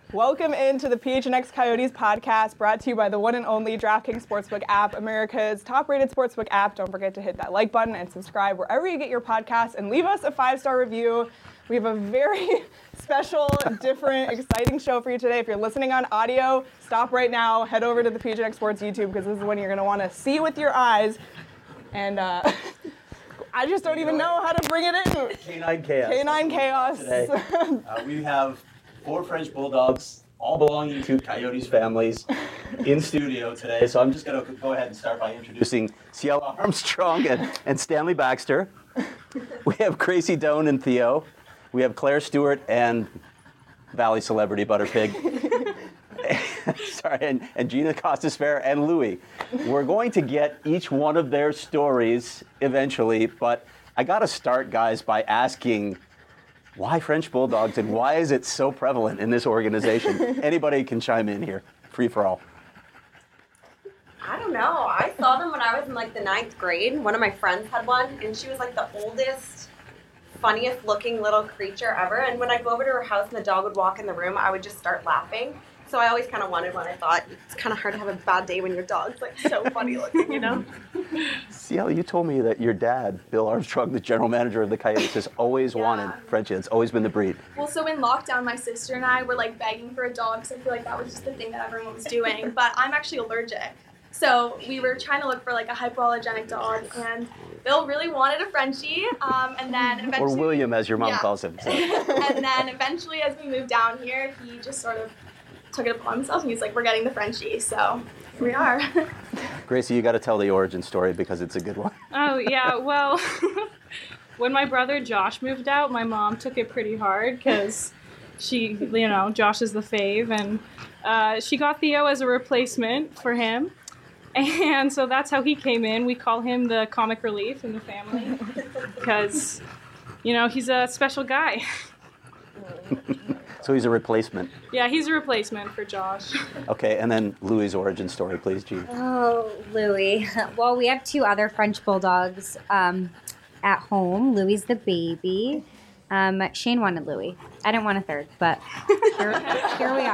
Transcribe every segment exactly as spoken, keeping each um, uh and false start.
Welcome into the P H N X Coyotes podcast, brought to you by the one and only DraftKings Sportsbook app, America's top-rated sportsbook app. Don't forget to hit that like button and subscribe wherever you get your podcasts, and leave us a five-star review. We have a very special, different, exciting show for you today. If you're listening on audio, stop right now, head over to the P H N X Sports YouTube, because this is when you're going to want to see with your eyes. And uh, I just don't even know how to bring it in. Canine Chaos. Canine Chaos. Today. Uh, we have four French Bulldogs, all belonging to Coyotes families, in studio today. So I'm just going to go ahead and start by introducing Ciela Armstrong and, and Stanley Baxter. We have Gracie Doan and Theo. We have Claire Stewart and Valley celebrity Butterpig. Sorry, and, and Gina Costas-Fair and Louie. We're going to get each one of their stories eventually, but I got to start, guys, by asking, why French Bulldogs, and why is it so prevalent in this organization? Anybody can chime in here. Free for all. I don't know. I saw them when I was in like the ninth grade. One of my friends had one, and she was like the oldest, funniest looking little creature ever. And when I go over to her house and the dog would walk in the room, I would just start laughing. So I always kind of wanted one. I thought it's kind of hard to have a bad day when your dog's like so funny looking, you know? Ciela, you told me that your dad, Bill Armstrong, the general manager of the Coyotes, has always yeah. wanted Frenchie. It's always been the breed. Well, so in lockdown, my sister and I were like begging for a dog, because I feel like that was just the thing that everyone was doing. But I'm actually allergic. So we were trying to look for like a hypoallergenic dog, and Bill really wanted a Frenchie. Um, and then eventually, or William, as your mom yeah. calls him. So. And then eventually, as we moved down here, he just sort of took it upon himself, and he's like, we're getting the Frenchie, so here we are. Gracie, you got to tell the origin story because it's a good one. Oh, yeah, well, when my brother Josh moved out, my mom took it pretty hard because she, you know, Josh is the fave, and uh, she got Theo as a replacement for him, and so that's how he came in. We call him the comic relief in the family because, you know, he's a special guy. So he's a replacement. Yeah, he's a replacement for Josh. Okay, and then Louie's origin story, please, Gina. Oh, Louie. Well, we have two other French Bulldogs um, at home. Louie's the baby. Um, Shane wanted Louie. I didn't want a third, but here, here we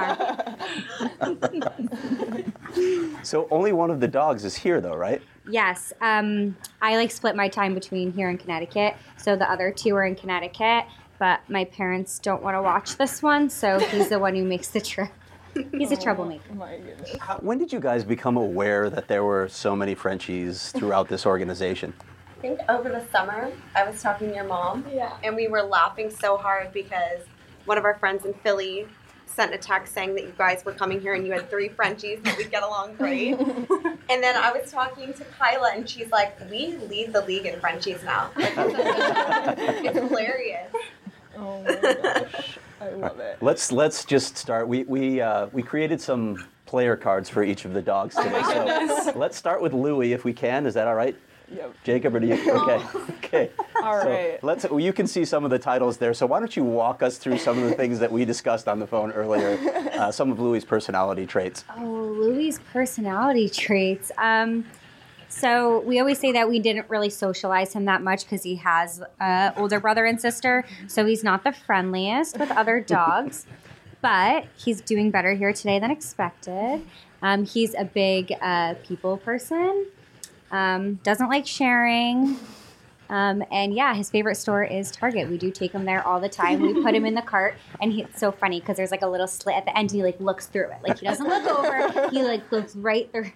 are. So only one of the dogs is here, though, right? Yes. Um, I like split my time between here and Connecticut, so the other two are in Connecticut. But my parents don't want to watch this one, so he's the one who makes the trip. He's a troublemaker. Oh my goodness. How, when did you guys become aware that there were so many Frenchies throughout this organization? I think over the summer, I was talking to your mom, Yeah. and we were laughing so hard because one of our friends in Philly sent a text saying that you guys were coming here and you had three Frenchies and we'd get along great. And then I was talking to Kyla, and she's like, we lead the league in Frenchies now. Like, it's hilarious. Oh my gosh, I love it. Let's let's just start. We we uh, we created some player cards for each of the dogs today. So let's start with Louie, if we can. Is that all right? Yep. Jacob, or do you? Okay. Okay. All so right. Let's. Well, you can see some of the titles there. So why don't you walk us through some of the things that we discussed on the phone earlier? Uh, some of Louie's personality traits. Oh, Louie's personality traits. Um, so we always say that we didn't really socialize him that much because he has an older brother and sister. So he's not the friendliest with other dogs. But he's doing better here today than expected. Um, he's a big uh, people person. Um, doesn't like sharing. Um, and yeah, his favorite store is Target. We do take him there all the time. We put him in the cart, and he, it's so funny because there's like a little slit at the end, and he like looks through it. Like he doesn't look over, he like looks right through.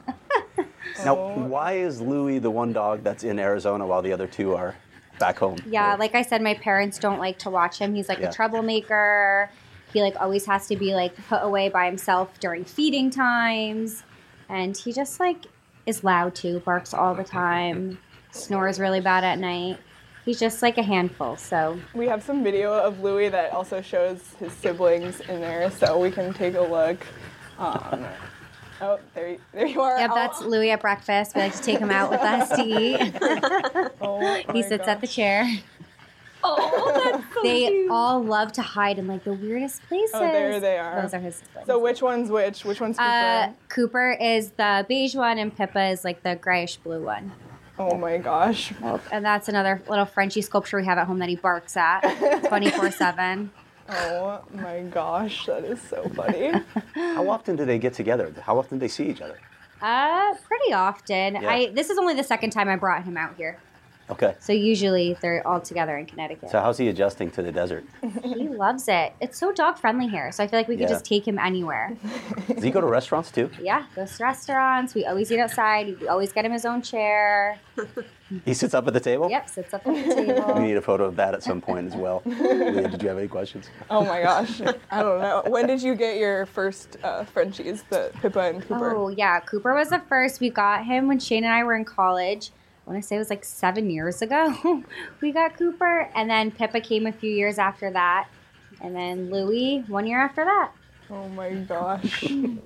Now, why is Louie the one dog that's in Arizona while the other two are back home? Yeah, like I said, my parents don't like to watch him. He's like Yeah. a troublemaker. He like always has to be like put away by himself during feeding times, and he just like is loud too, barks all the time, snores really bad at night. He's just like a handful, so. We have some video of Louie that also shows his siblings in there, so we can take a look. Um, oh, there you, there you are. Yep, that's Oh. Louie at breakfast. We like to take him out with us to eat. Oh my He sits at the gosh. chair. Oh, that's so They cute. all love to hide in like the weirdest places. Oh, there they are. Those are his siblings. So which one's which? Which one's Cooper? Uh, Cooper is the beige one, and Pippa is like the grayish blue one. oh my gosh. And that's another little Frenchie sculpture we have at home that he barks at twenty-four seven. Oh my gosh, that is so funny. How often do they get together? How often do they see each other? Uh, pretty often. Yeah. I this is only the second time I brought him out here. Okay. So usually they're all together in Connecticut. So how's he adjusting to the desert? He loves it. It's so dog friendly here, so I feel like we could Yeah. just take him anywhere. Does he go to restaurants too? Yeah, goes to restaurants. We always eat outside. We always get him his own chair. He sits up at the table? Yep, sits up at the We table. need a photo of that at some point as well. Leah, did you have any questions? Oh my gosh. I don't know. When did you get your first uh, Frenchies, the Pippa and Cooper? Oh yeah, Cooper was the first. We got him when Shane and I were in college. I want to say it was like seven years ago. We got Cooper, and then Pippa came a few years after that, and then Louie one year after that. Oh my gosh.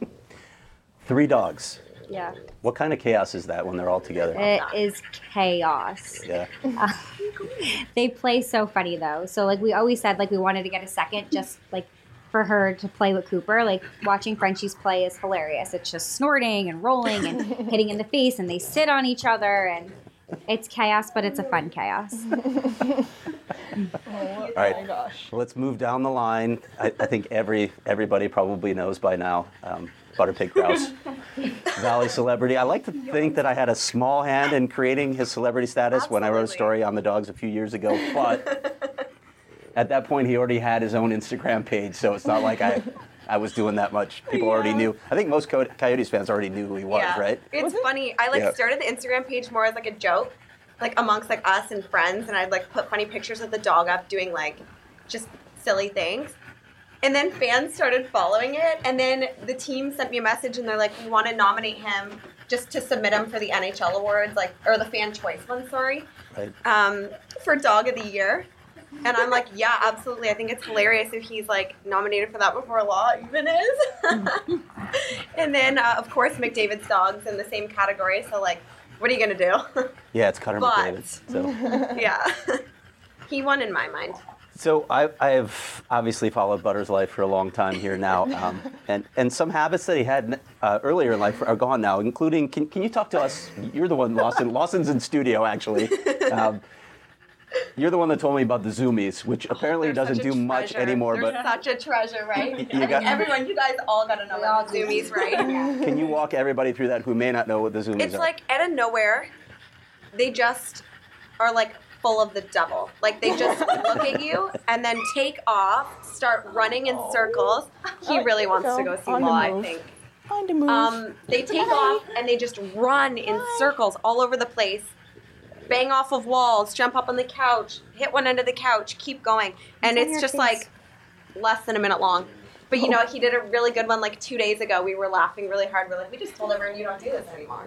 Three dogs. Yeah, What kind of chaos is that when they're all together? it is chaos. Yeah. Uh, they play so funny though. So like we always said, like we wanted to get a second just like for her to play with Cooper. Like watching Frenchies play is hilarious. It's just snorting and rolling and hitting in the face, and they sit on each other, and it's chaos, but it's a fun chaos. Oh All right. my gosh. Let's move down the line. I, I think every everybody probably knows by now. Um, Butterpig Grouse, Valley celebrity. I like to think that I had a small hand in creating his celebrity status when I wrote a Absolutely. story on the dogs a few years ago. But at that point, he already had his own Instagram page, so it's not like I, I was doing that much. People already knew. I think most Co- Coyotes fans already knew who he was, yeah. right? It's funny. I like Yeah. started the Instagram page more as like a joke, like amongst like us and friends, and I'd like put funny pictures of the dog up doing like just silly things. And then fans started following it, and then the team sent me a message, and they're like, "We want to nominate him just to submit him for the N H L awards, like or the fan choice one, sorry, Right. um, for Dog of the Year." And I'm like, "Yeah, absolutely. I think it's hilarious if he's like nominated for that before law even is." And then, uh, of course, McDavid's dog's in the same category. So like, what are you gonna do? Yeah, it's Cutter But- McDavid. So. Yeah, he won in my mind. So I, I have obviously followed Butter's life for a long time here now, um, and and some habits that he had uh, earlier in life are gone now, including. Can, can you talk to us? You're the one, Lawson. Lawson's in studio actually. Um, you're the one that told me about the Zoomies, which apparently They're doesn't such a do much treasure. anymore. They're But such a treasure, right? You I got- think everyone, you guys all gotta know We all what do. Zoomies, right? can you walk everybody through that who may not know what the Zoomies It's are? like out of nowhere, they just are like full of the devil. Like they just look at you and then take off, start running in circles. He really wants to go see On the Law, I move. think. Find a move. Um, they take off and they just run in circles all over the place. Bang off of walls, jump up on the couch, hit one end of the couch, keep going. And What's on it's your just face? like less than a minute long. But you know, he did a really good one like two days ago. We were laughing really hard. We're like, we just told everyone you don't do this anymore.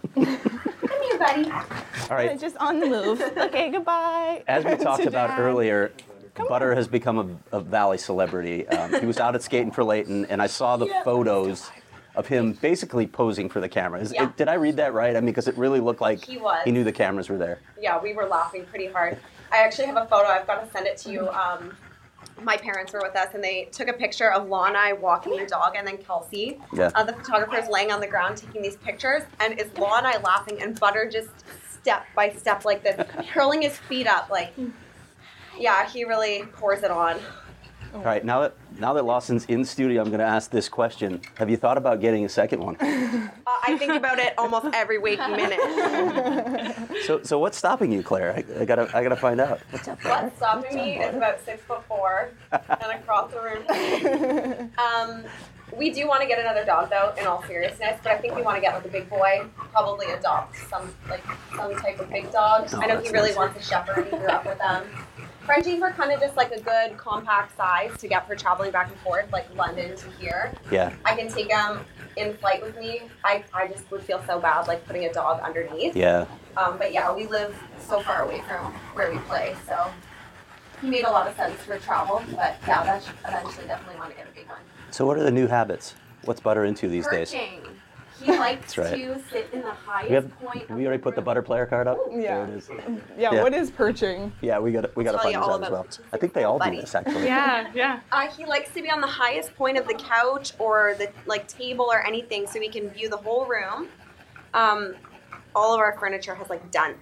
Come here, buddy. All right. Just on the move. Okay, goodbye. As we talked Sit about down. earlier, Butter has become a, a Valley celebrity. Um, he was out at Skating for Leighton, and I saw the photos of him basically posing for the camera. Is, Yeah. it, did I read that right? I mean, because it really looked like He was. knew the cameras were there. Yeah, we were laughing pretty hard. I actually have a photo. I've got to send it to you. Um, my parents were with us, and they took a picture of Law and I walking the dog, and then Kelsey, Yeah. uh, the photographer's laying on the ground taking these pictures, and it's Law and I laughing, and Butter just step by step like this, curling his feet up, like, yeah, he really pours it on. All right, now that now that Lawson's in studio, I'm going to ask this question: have you thought about getting a second one? Uh, I think about it almost every waking minute. So, so what's stopping you, Claire? I, I gotta, I gotta find out. What's up? What's stopping me is about six foot four and across the room. Um, we do want to get another dog though, in all seriousness, but I think we want to get like a big boy, probably adopt some like some type of big dog. Oh, I know that's he really nice. wants a shepherd. He grew up with them. Frenchies are kind of just like a good compact size to get for traveling back and forth, like London to here. Yeah, I can take him in flight with me. I, I just would feel so bad like putting a dog underneath. yeah. Um, but yeah, we live so far away from where we play, so he made a lot of sense for travel. But yeah, that's eventually definitely want to get a big one. So, what are the new habits? What's Butter into these days? Perching. He likes right. to sit in the highest We have, point. we already put the Butter player card up. Yeah. There it is. Yeah, Yeah. what is perching? Yeah, we got, we got to Tell find you this all out as about well. it. I think they all do Buddy. this actually. Yeah, yeah. Uh, he likes to be on the highest point of the couch or the like table or anything, so he can view the whole room. Um, all of our furniture has like dents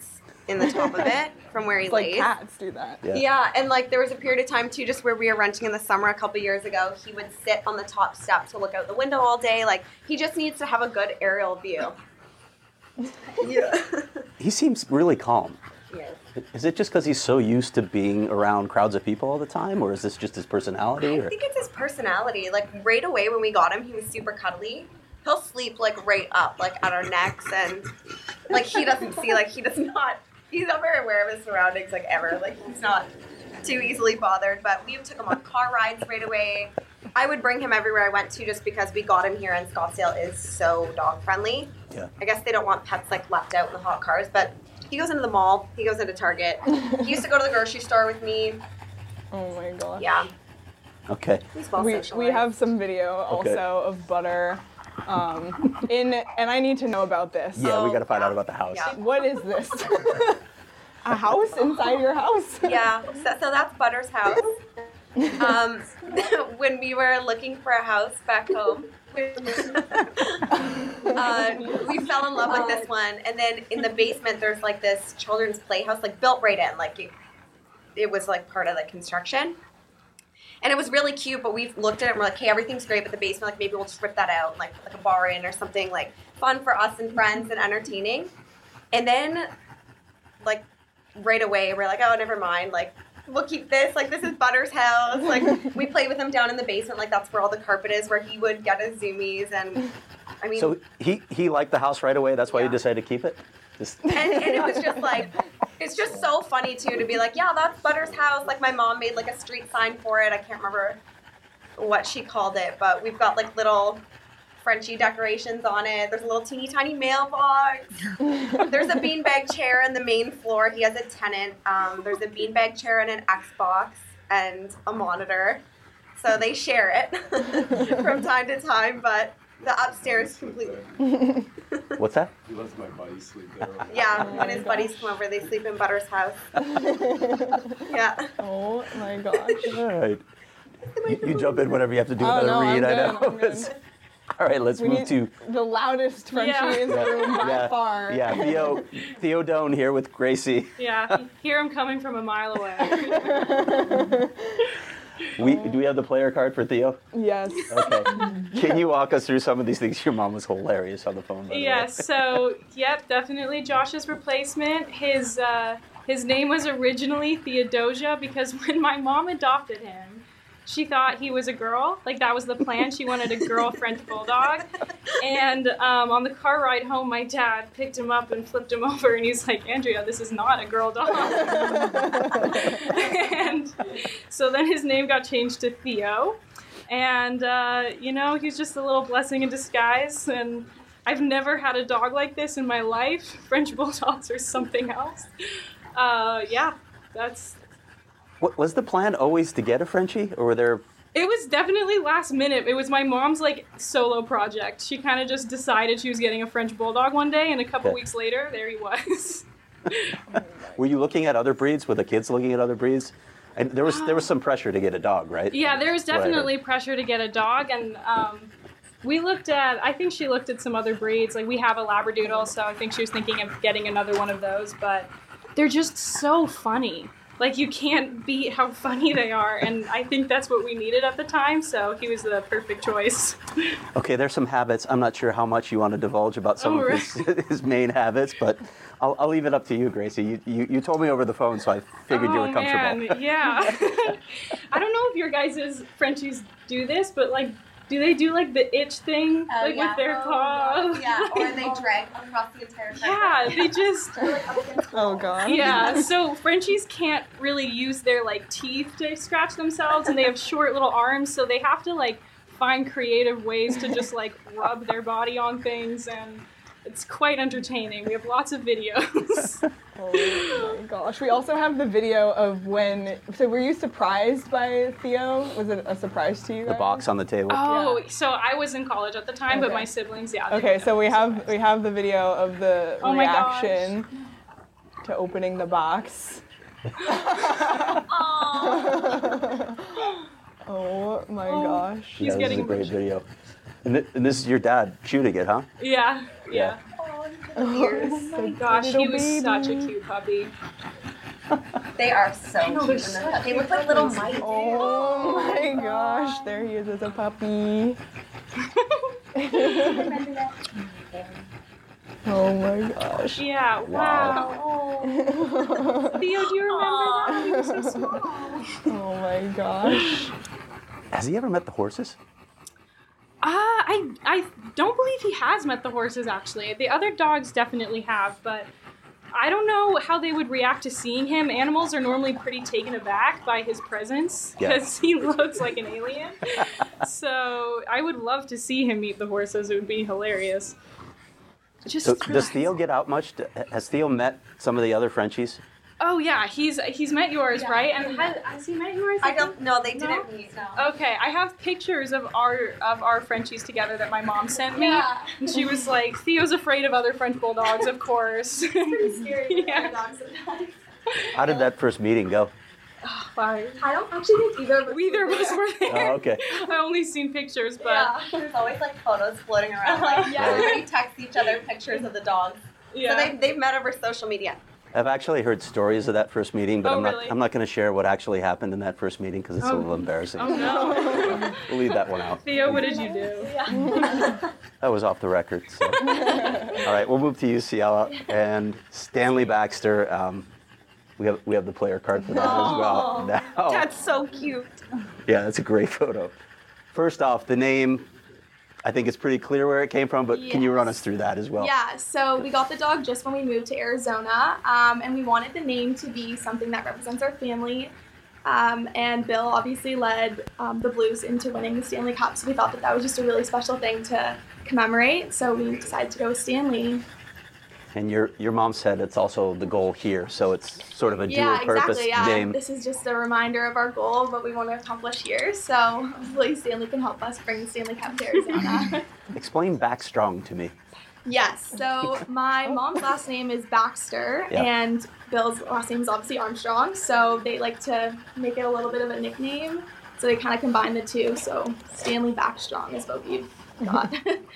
in the top of it from where he It's like lays. cats do that. Yeah. Yeah, and like there was a period of time too, just where we were renting in the summer a couple years ago. He would sit on the top step to look out the window all day. Like he just needs to have a good aerial view. Yeah. He seems really calm. Yes. Is it just because he's so used to being around crowds of people all the time, or is this just his personality? I Or? think it's his personality. Like right away when we got him, he was super cuddly. He'll sleep like right up, like at our necks, and like he doesn't see, like he does not. He's not very aware of his surroundings, like ever. Like he's not too easily bothered. But we took him on car rides right away. I would bring him everywhere I went to, just because we got him here, and Scottsdale is so dog friendly. Yeah. I guess they don't want pets like left out in the hot cars, but he goes into the mall. He goes into Target. He used to go to the grocery store with me. Oh my gosh. Yeah, Okay. he's well We, we socialized. have some video Okay. also of Butter um, in, and I need to know about this. Yeah, we got to find yeah. out about the house. Yeah. What is this? A house inside your house? Yeah, so, so that's Butter's house. Um, when we were looking for a house back home, uh, we fell in love with this one. And then in the basement, there's like this children's playhouse, like built right in, like it, it was like part of the construction. And it was really cute, but we've looked at it and we're like, hey, everything's great, but the basement, like maybe we'll just rip that out, and, like like a bar in or something, like fun for us and friends and entertaining. And then, like right away, we're like, oh, never mind, like we'll keep this. Like this is Butter's house. Like we played with him down in the basement, like that's where all the carpet is, where he would get his zoomies. And I mean, So he, he liked the house right away. That's why Yeah. you decided to keep it? Just, and, and it was just like, it's just so funny too to be like, yeah, that's Butter's house. Like my mom made like a street sign for it. I can't remember what she called it, but we've got like little Frenchy decorations on it. There's a little teeny tiny mailbox. There's a beanbag chair in the main floor. He has a tenant. Um, there's a beanbag chair and an Xbox and a monitor. So they share it from time to time, but the upstairs completely. what's that? He lets my buddies sleep there. Yeah, Oh when my his buddies come over, they sleep in Butter's house. Yeah. Oh my gosh. All right. You, you jump in whenever you have to do Oh, another no, I'm read. I good, know. I'm good. All right, let's We move need to the loudest Frenchie Yeah. in the room by yeah, far. yeah. Theo Theo Doan here with Gracie. Yeah, hear him coming from a mile away. We do we have the player card for Theo? Yes. Okay. Can you walk us through some of these things? Your mom was hilarious on the phone. By the way. Yes, so yep, definitely Josh's replacement. His uh, his name was originally Theodosia because when my mom adopted him, she thought he was a girl. Like that was the plan. She wanted a girl French bulldog. And um, on the car ride home, my dad picked him up and flipped him over, and he's like, "Andrea, this is not a girl dog." And so then his name got changed to Theo. And, uh, you know, he's just a little blessing in disguise. And I've never had a dog like this in my life. French bulldogs or something else. Uh, yeah, that's. What, was the plan always to get a Frenchie, or were there? It was definitely last minute. It was my mom's like solo project. She kind of just decided she was getting a French bulldog one day, and a couple Okay. weeks later, there he was. Were you looking at other breeds? Were the kids looking at other breeds? And there was there was some pressure to get a dog, right? Yeah, there was That's what I heard. definitely pressure to get a dog, and um, we looked at. I think she looked at some other breeds. Like we have a Labradoodle, so I think she was thinking of getting another one of those. But they're just so funny. Like you can't beat how funny they are, and I think that's what we needed at the time. So he was the perfect choice. Okay, there's some habits. I'm not sure how much you want to divulge about some Oh, of his, his main habits, but I'll, I'll leave it up to you, Gracie. You, you, you told me over the phone, so I figured you Oh were comfortable. man, yeah. I don't know if your guys' Frenchies do this, but like, do they do like the itch thing, Oh, like yeah. with their Oh, paw? Yeah, or they drag across the entire carpet. Yeah, they just. Oh god. Yeah, so Frenchies can't really use their like teeth to scratch themselves, and they have short little arms, so they have to like find creative ways to just like rub their body on things, and it's quite entertaining. We have lots of videos. Oh my gosh. We also have the video of when. So were you surprised by Theo? Was it a surprise to you guys? The box on the table. Oh, Yeah. so I was in college at the time, but Okay. my siblings, yeah. they Okay, were so we definitely have we have the video of the Oh my gosh. reaction to opening the box. Oh my Oh. gosh. He's yeah, this getting is a great emotional. video. And, th- and this is your dad shooting it, huh? Yeah, yeah. Yeah. Oh, ears. Oh my gosh, he Little was baby. such a cute puppy. They are so cute. they're in so the- They look like little mice. Oh my gosh, there he is as a puppy. Oh my gosh. Yeah, wow. Theo, do you remember that? He was so small. Oh my gosh. Has he ever met the horses? Uh, I I don't believe he has met the horses, actually. The other dogs definitely have, but I don't know how they would react to seeing him. Animals are normally pretty taken aback by his presence Yeah. because he looks like an alien. So I would love to see him meet the horses. It would be hilarious. Just So does Theo get out much? Has Theo met some of the other Frenchies? Oh yeah, he's he's met yours, right? And has, has he met yours? I don't know. They No? didn't meet. No. Okay, I have pictures of our of our Frenchies together that my mom sent me. Yeah. And she was like, Theo's afraid of other French bulldogs, of course. Pretty scary for Yeah. dogs sometimes. How did that first meeting go? Wow. I don't actually think either of us Either of were us there. were there. Oh, okay. I only seen pictures, but Yeah. There's always like photos floating around. Like Yeah. everybody texts each other pictures of the dogs. yeah. So they they've met over social media. I've actually heard stories of that first meeting, but Oh, I'm not. really? I'm not going to share what actually happened in that first meeting because it's a Oh. little embarrassing. Oh no. We'll leave that one out. Theo, what did you do? That was off the record. So. All right, we'll move to U C L and Stanley Baxter. Um, we have we have the player card for that as well. Now, That's so cute. yeah, that's a great photo. First off, the name. I think it's pretty clear where it came from, but can you run us through that as well? Yeah, so we got the dog just when we moved to Arizona, um, and we wanted the name to be something that represents our family. Um, and Bill obviously led um, the Blues into winning the Stanley Cup, so we thought that that was just a really special thing to commemorate. So we decided to go with Stanley. And your your mom said it's also the goal here, so it's sort of a Yeah, dual purpose exactly. Yeah, name. this is just a reminder of our goal of what we want to accomplish here. So hopefully Stanley can help us bring the Stanley Cup to Arizona. Explain Backstrong to me. Yes. So my mom's last name is Baxter, Yeah. and Bill's last name is obviously Armstrong. So they like to make it a little bit of a nickname. So they kind of combine the two. So Stanley Backstrong is what we've got.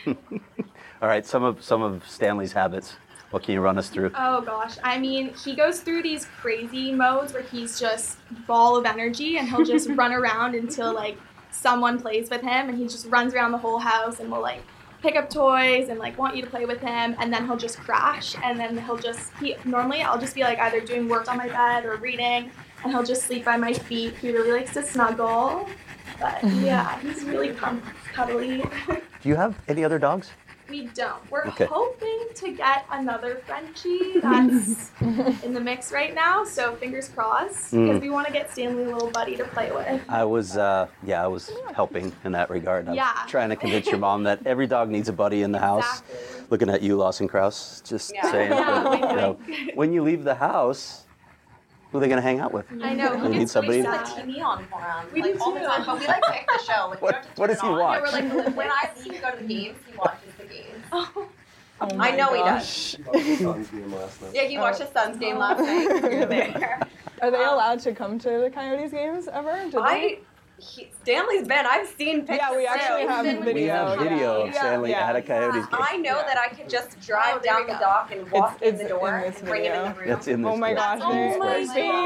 All right, some of some of Stanley's habits. What can you run us through? Oh gosh, I mean, he goes through these crazy modes where he's just ball of energy, and he'll just run around until like someone plays with him, and he just runs around the whole house and will like pick up toys and like want you to play with him, and then he'll just crash, and then he'll just he normally I'll just be like either doing work on my bed or reading, and he'll just sleep by my feet. He really likes to snuggle, but yeah, he's really cum- cuddly. Do you have any other dogs? We don't. We're Okay. hoping to get another Frenchie that's in the mix right now, so fingers crossed, because Mm. we want to get Stanley a little buddy to play with. I was, uh, yeah, I was helping in that regard. I was Yeah. trying to convince your mom that every dog needs a buddy in the house. Exactly. Looking at you, Lawson Krause, just Yeah. saying. Yeah, but, wink, you know, wink. when you leave the house, who are they going to hang out with? I know. They He need gets somebody- really Put sad. T V on for him, We like do all the too. time. But we like pick the show. Like, we What- don't have to what turn does it he on. watch? Yeah, we're like, When I leave to go to the games, he watches the games. oh, Oh I my know he gosh. Yeah, he watched his son's game last night. We were there. Are they allowed to come to the Coyotes games ever? Do I, he, Stanley's been. I've seen pictures. Yeah, we actually too. have been with video. We have Yeah. video of Yeah. Stanley Yeah. at a Coyotes game. I know Yeah. that I could just drive Oh, there down we the go. dock and walk It's- in it's the door in this and bring him in the room. That's in this Oh my clip. gosh, Oh there's my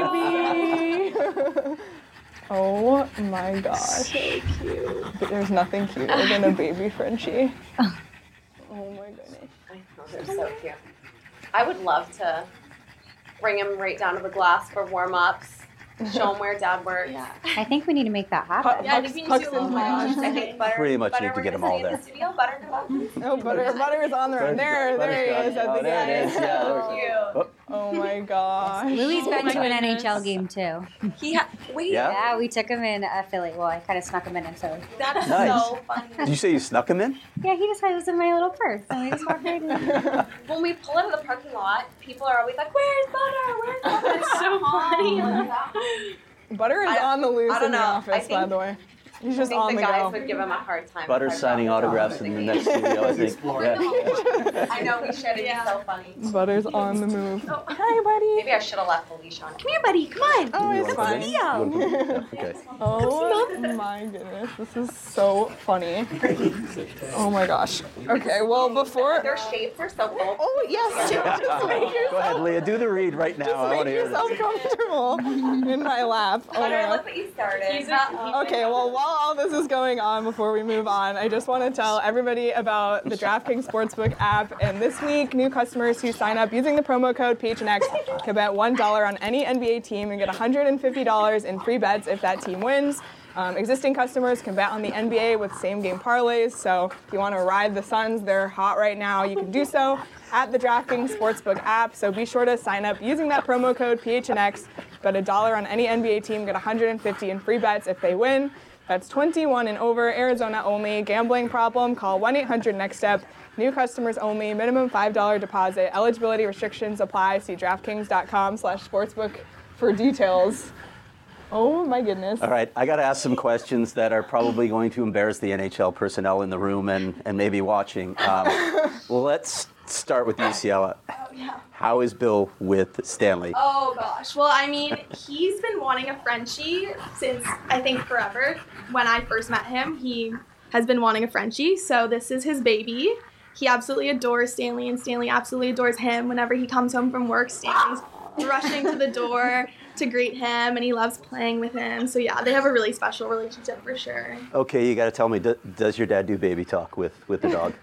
baby. Oh my gosh. so cute. But there's nothing cuter than a baby Frenchie. Oh my goodness. I know, they're so cute. I would love to bring him right down to the glass for warm-ups, show him where Dad works. Yeah. I think we need to make that happen. Yeah, I think we need to do a little Pucks- more. I think Butter, Pretty much Butter, need to we're get 'em gonna all see in there. the studio, Butter, come on. Oh, butter, butter is on the run. There, there he is at Oh, the there it game. is. Yeah, So cute. Oh, Oh my gosh. Louis Oh been my to an N H L goodness. game too. He ha- wait, Yeah? Yeah, we took him in a Philly. Well, I kind of snuck him in in Philly. that's Nice. so funny. Did you say you snuck him in? Yeah, he just was in my little purse, and we just walked right in. When we pull out of the parking lot, people are always like, "Where's Butter? Where's Butter?" That's so funny. Butter is I- on the loose I don't in the know. I office, by think- the way. He's I just think on the the guys go. would give him a hard time. if Butter's I signing brought him autographs down. in the next studio, I think. Yeah. I know we should. It'd Yeah. be so funny. Butter's on the move. Oh. Hi, buddy. Maybe I should have left the leash on. Come here, buddy. Come on. Oh, You it's wanna put fine. it in? You wanna put it in? Yeah, okay. Oh my goodness, this is so funny. Oh my gosh. Okay, well before. Their shapes are so cool. Oh yes, just make Go yourself, ahead, Leah. Do the read right now. I just want make to hear yourself this. comfortable in my lap. Oh my Butter, gosh. look what you started. He's a- Okay, well, while all this is going on, before we move on, I just want to tell everybody about the DraftKings Sportsbook app. And this week, new customers who sign up using the promo code P H N X can bet one dollar on any N B A team and get one hundred fifty dollars in free bets if that team wins. Um, existing customers can bet on the N B A with same-game parlays. So if you want to ride the Suns, they're hot right now, you can do so at the DraftKings Sportsbook app. So be sure to sign up using that promo code P H N X. Bet a dollar on any N B A team, get one hundred fifty in free bets if they win. That's twenty-one and over, Arizona only. Gambling problem? Call one eight hundred next step. New customers only. Minimum five dollars deposit. Eligibility restrictions apply. See DraftKings.com slash sportsbook for details. Oh my goodness. All right, I got to ask some questions that are probably going to embarrass the N H L personnel in the room and, and maybe watching. Um, well, let's start with you, Ciela. How is Bill with Stanley? Oh gosh. Well, I mean, he's been wanting a Frenchie since I think forever. When I first met him, he has been wanting a Frenchie. So this is his baby. He absolutely adores Stanley, and Stanley absolutely adores him. Whenever he comes home from work, Stanley's rushing to the door to greet him, and he loves playing with him. So yeah, they have a really special relationship for sure. Okay, you got to tell me, do, does your dad do baby talk with, with the dog?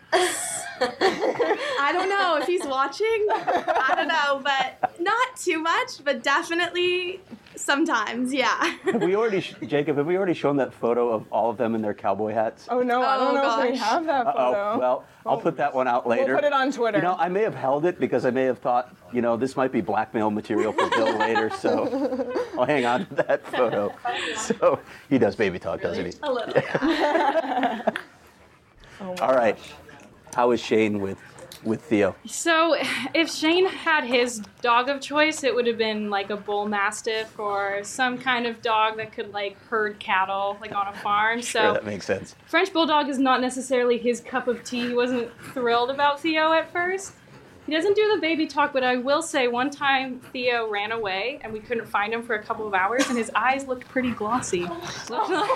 I don't know if he's watching. I don't know, but not too much, but definitely sometimes, yeah. Have we already, sh- Jacob, have we already shown that photo of all of them in their cowboy hats? Oh no, I don't Oh, know if we gosh. have that photo. Uh-oh. Well, I'll put that one out later. We'll put it on Twitter. You know, I may have held it because I may have thought, you know, this might be blackmail material for Bill later, so I'll hang on to that photo. So he does baby talk, doesn't he? A little, yeah. Oh my All right. How is Shane with with Theo? So, if Shane had his dog of choice, it would have been like a bull mastiff or some kind of dog that could like herd cattle, like on a farm. So, Sure, that makes sense. French Bulldog is not necessarily his cup of tea. He wasn't thrilled about Theo at first. He doesn't do the baby talk, but I will say one time Theo ran away and we couldn't find him for a couple of hours and his eyes looked pretty glossy. So,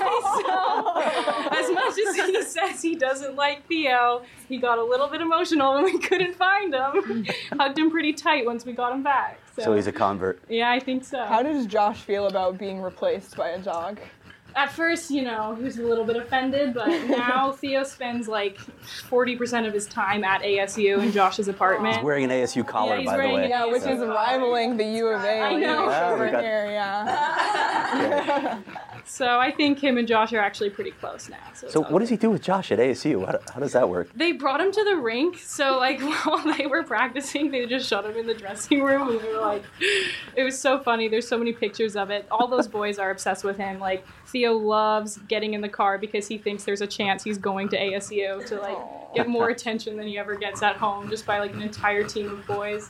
as much as he says he doesn't like Theo, he got a little bit emotional when we couldn't find him. Hugged him pretty tight once we got him back. So, So he's a convert. yeah, I think so. How does Josh feel about being replaced by a dog? At first, you know, he was a little bit offended, but now Theo spends like forty percent of his time at A S U in Josh's apartment. He's wearing an A S U collar, Yeah, he's by the wearing- way. Yeah, which So- is rivaling the U of A. I know. Yeah, we over got- here, yeah. So I think him and Josh are actually pretty close now. So, So what does he do with Josh at A S U? How, how does that work? They brought him to the rink, so like while they were practicing, they just shut him in the dressing room. And we were like, it was so funny. There's so many pictures of it. All those boys are obsessed with him. Like Theo loves getting in the car because he thinks there's a chance he's going to A S U to like get more attention than he ever gets at home just by like an entire team of boys.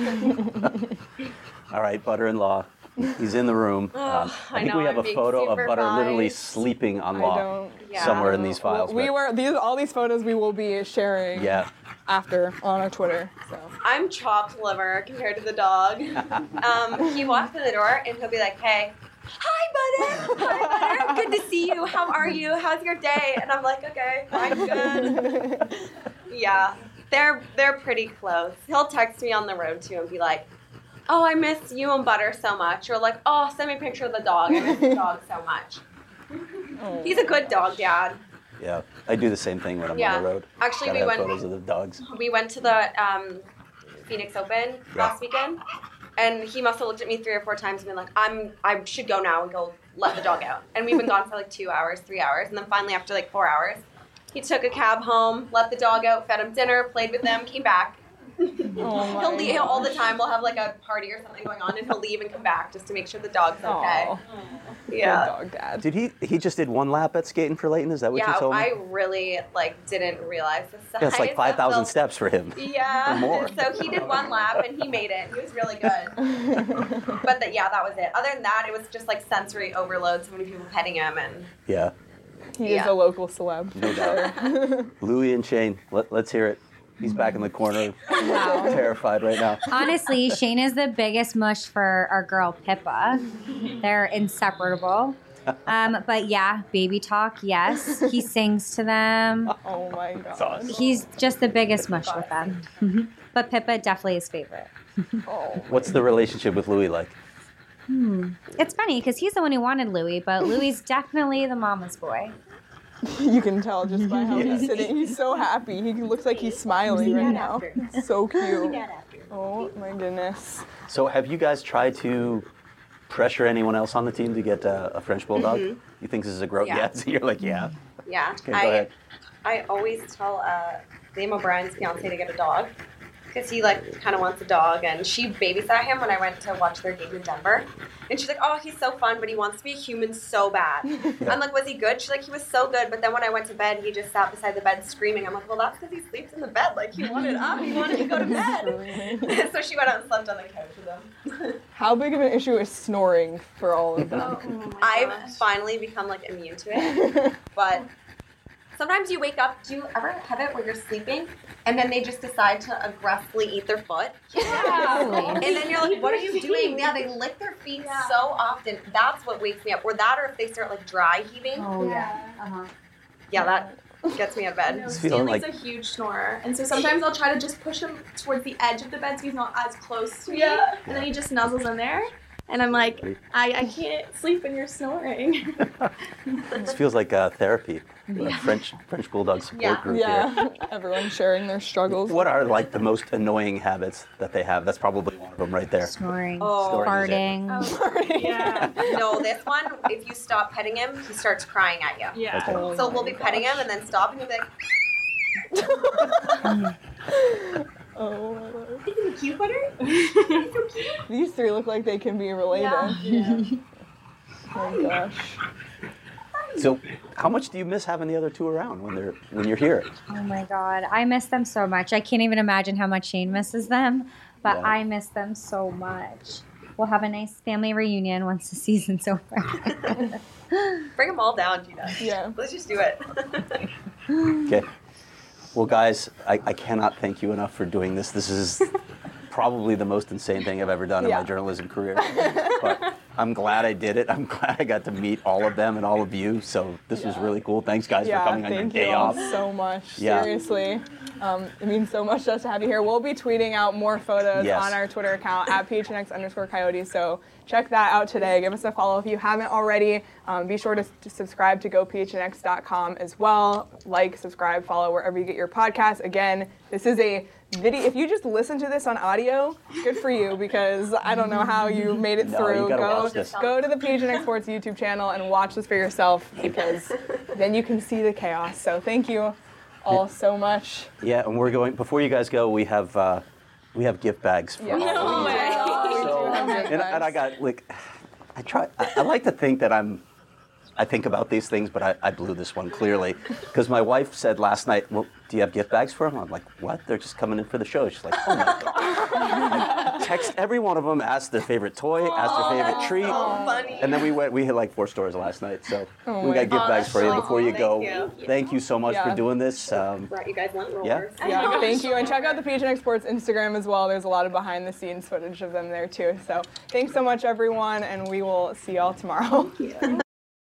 All right, Butter-in-law. He's in the room. Oh, Um, I I think know, we have I'm a being photo of Butter literally supervised. sleeping on I Law don't. Yeah. somewhere in these files. We but- were these all these photos we will be sharing Yeah. after on our Twitter. So I'm chopped liver compared to the dog. Um, he walks in the door and he'll be like, "Hey, hi, Butter. Hi, Butter. Good to see you. How are you? How's your day?" And I'm like, "Okay, I'm good." Yeah, they're they're pretty close. He'll text me on the road too and be like, "Oh, I miss you and Butter so much," or like, "Oh, send me a picture of the dog. I miss the dog so much." He's a good dog dad. Yeah. I do the same thing when I'm Yeah. on the road. Actually, Gotta we have went. photos of the dogs. We went to the um, Phoenix Open last weekend, and he must have looked at me three or four times and been like, "I'm, I should go now and go let the dog out." And we've been gone for like two hours, three hours, and then finally after like four hours, he took a cab home, let the dog out, fed him dinner, played with them, came back, Oh my he'll leave gosh. all the time. We'll have like a party or something going on, and he'll leave and come back just to make sure the dog's okay. Aw. Yeah. Good dog dad. Did he? He just did one lap at skating for Leighton. Is that what Yeah, you told me? I really like didn't realize the size. Yeah, it's like five thousand of the- steps for him. Yeah. Or more. So he did one lap and he made it. He was really good. But the, yeah, that was it. Other than that, it was just like sensory overload. So many people petting him and Yeah, He is Yeah. a local celeb. no doubt. Louis and Shane, let, let's hear it. He's back in the corner, Wow. terrified right now. Honestly, Shane is the biggest mush for our girl Pippa. They're inseparable. Um, but yeah, baby talk, yes. He sings to them. Oh my god. That's awesome. He's just the biggest mush with them. Mhm. But Pippa definitely his favorite. Oh. What's the relationship with Louis like? Hmm. It's funny because he's the one who wanted Louis, but Louis is definitely the mama's boy. You can tell just by how Yeah. he's sitting. He's so happy. He looks like he's smiling right now. So cute. Oh my goodness. So have you guys tried to pressure anyone else on the team to get uh, a French Bulldog? Mhm. You think this is a growth? Yeah. Yeah. So you're like, yeah. yeah. Okay, go I ahead. I always tell uh, Liam O'Brien's fiance to get a dog because he like kind of wants a dog, and she babysat him when I went to watch their game in Denver, and she's like, oh, he's so fun, but he wants to be a human so bad. I'm like, was he good? She's like, he was so good, but then when I went to bed, he just sat beside the bed screaming. I'm like, well, that's because he sleeps in the bed. Like he wanted up, he wanted to go to bed. So she went out and slept on the couch with him. How big of an issue is snoring for all of them? Oh my I've gosh. finally become like immune to it, but sometimes you wake up. Do you ever have it where you're sleeping and then they just decide to aggressively eat their foot? Yeah. And then you're like, what are you doing? Yeah, they lick their feet Yeah. so often. That's what wakes me up. Or that, or if they start like dry heaving. Oh Yeah. Uh-huh. Yeah, that gets me out of bed. No, It's feeling Stanley's like- a huge snorer, and so sometimes I'll try to just push him towards the edge of the bed so he's not as close to me, Yeah. and then he just nuzzles in there, and I'm like, I, I can't sleep when you're snoring. This feels like uh, therapy. A French French Bulldog support Yeah. group here. Yeah, everyone sharing their struggles. What are like the most annoying habits that they have? That's probably one of them right there. Snoring, Oh. Snoring farting. Yeah. No, this one, if you stop petting him, he starts crying at you. Yeah. Okay. Oh So my we'll be petting him and then stop and he'll be like, Oh my god. isn't he cute, butter? He's so cute. These three look like they can be related. Yeah. Oh my gosh. So, how much do you miss having the other two around when they're when you're here? Oh my God, I miss them so much. I can't even imagine how much Shane misses them, but Yeah. I miss them so much. We'll have a nice family reunion once the season's over. Bring them all down, Gina. Yeah. Let's just do it. Okay. Well, guys, I, I cannot thank you enough for doing this. This is probably the most insane thing I've ever done in Yeah. my journalism career. But I'm glad I did it. I'm glad I got to meet all of them and all of you. So this was really cool. Thanks, guys, Yeah, for coming on your thank day you all off. so much. Yeah. Seriously. Um, it means so much to us to have you here. We'll be tweeting out more photos Yes. on our Twitter account at P H N X underscore Coyotes. So check that out today. Give us a follow if you haven't already. Um, be sure to, to subscribe to go P H N X dot com as well. Like, subscribe, follow wherever you get your podcasts. Again, this is a video. If you just listen to this on audio, good for you, because I don't know how you made it No, through. you gotta go, watch this. go to the P H N X Sports YouTube channel and watch this for yourself, because then you can see the chaos. So thank you all so much. Yeah, and we're going. Before you guys go, we have uh, we have gift bags. For Yeah. all No of you. way. We do So, have gift and, and I bags. got like, I try. I, I like to think that I'm. I think about these things, but I, I blew this one clearly because my wife said last night, "Well, do you have gift bags for them?" I'm like, "What? They're just coming in for the show." She's like, "Oh my god!" I text every one of them, asked their favorite toy, asked their favorite treat, So funny. and then we went. We hit like four stores last night, so Oh we my got gift gosh. bags for you Oh, before you thank go. you. Thank you so much Yeah. for doing this. Um, Brought you guys lint Yeah. rollers. Yeah, thank you. And check out the P H N X Sports Instagram as well. There's a lot of behind the scenes footage of them there too. So thanks so much, everyone, and we will see y'all tomorrow.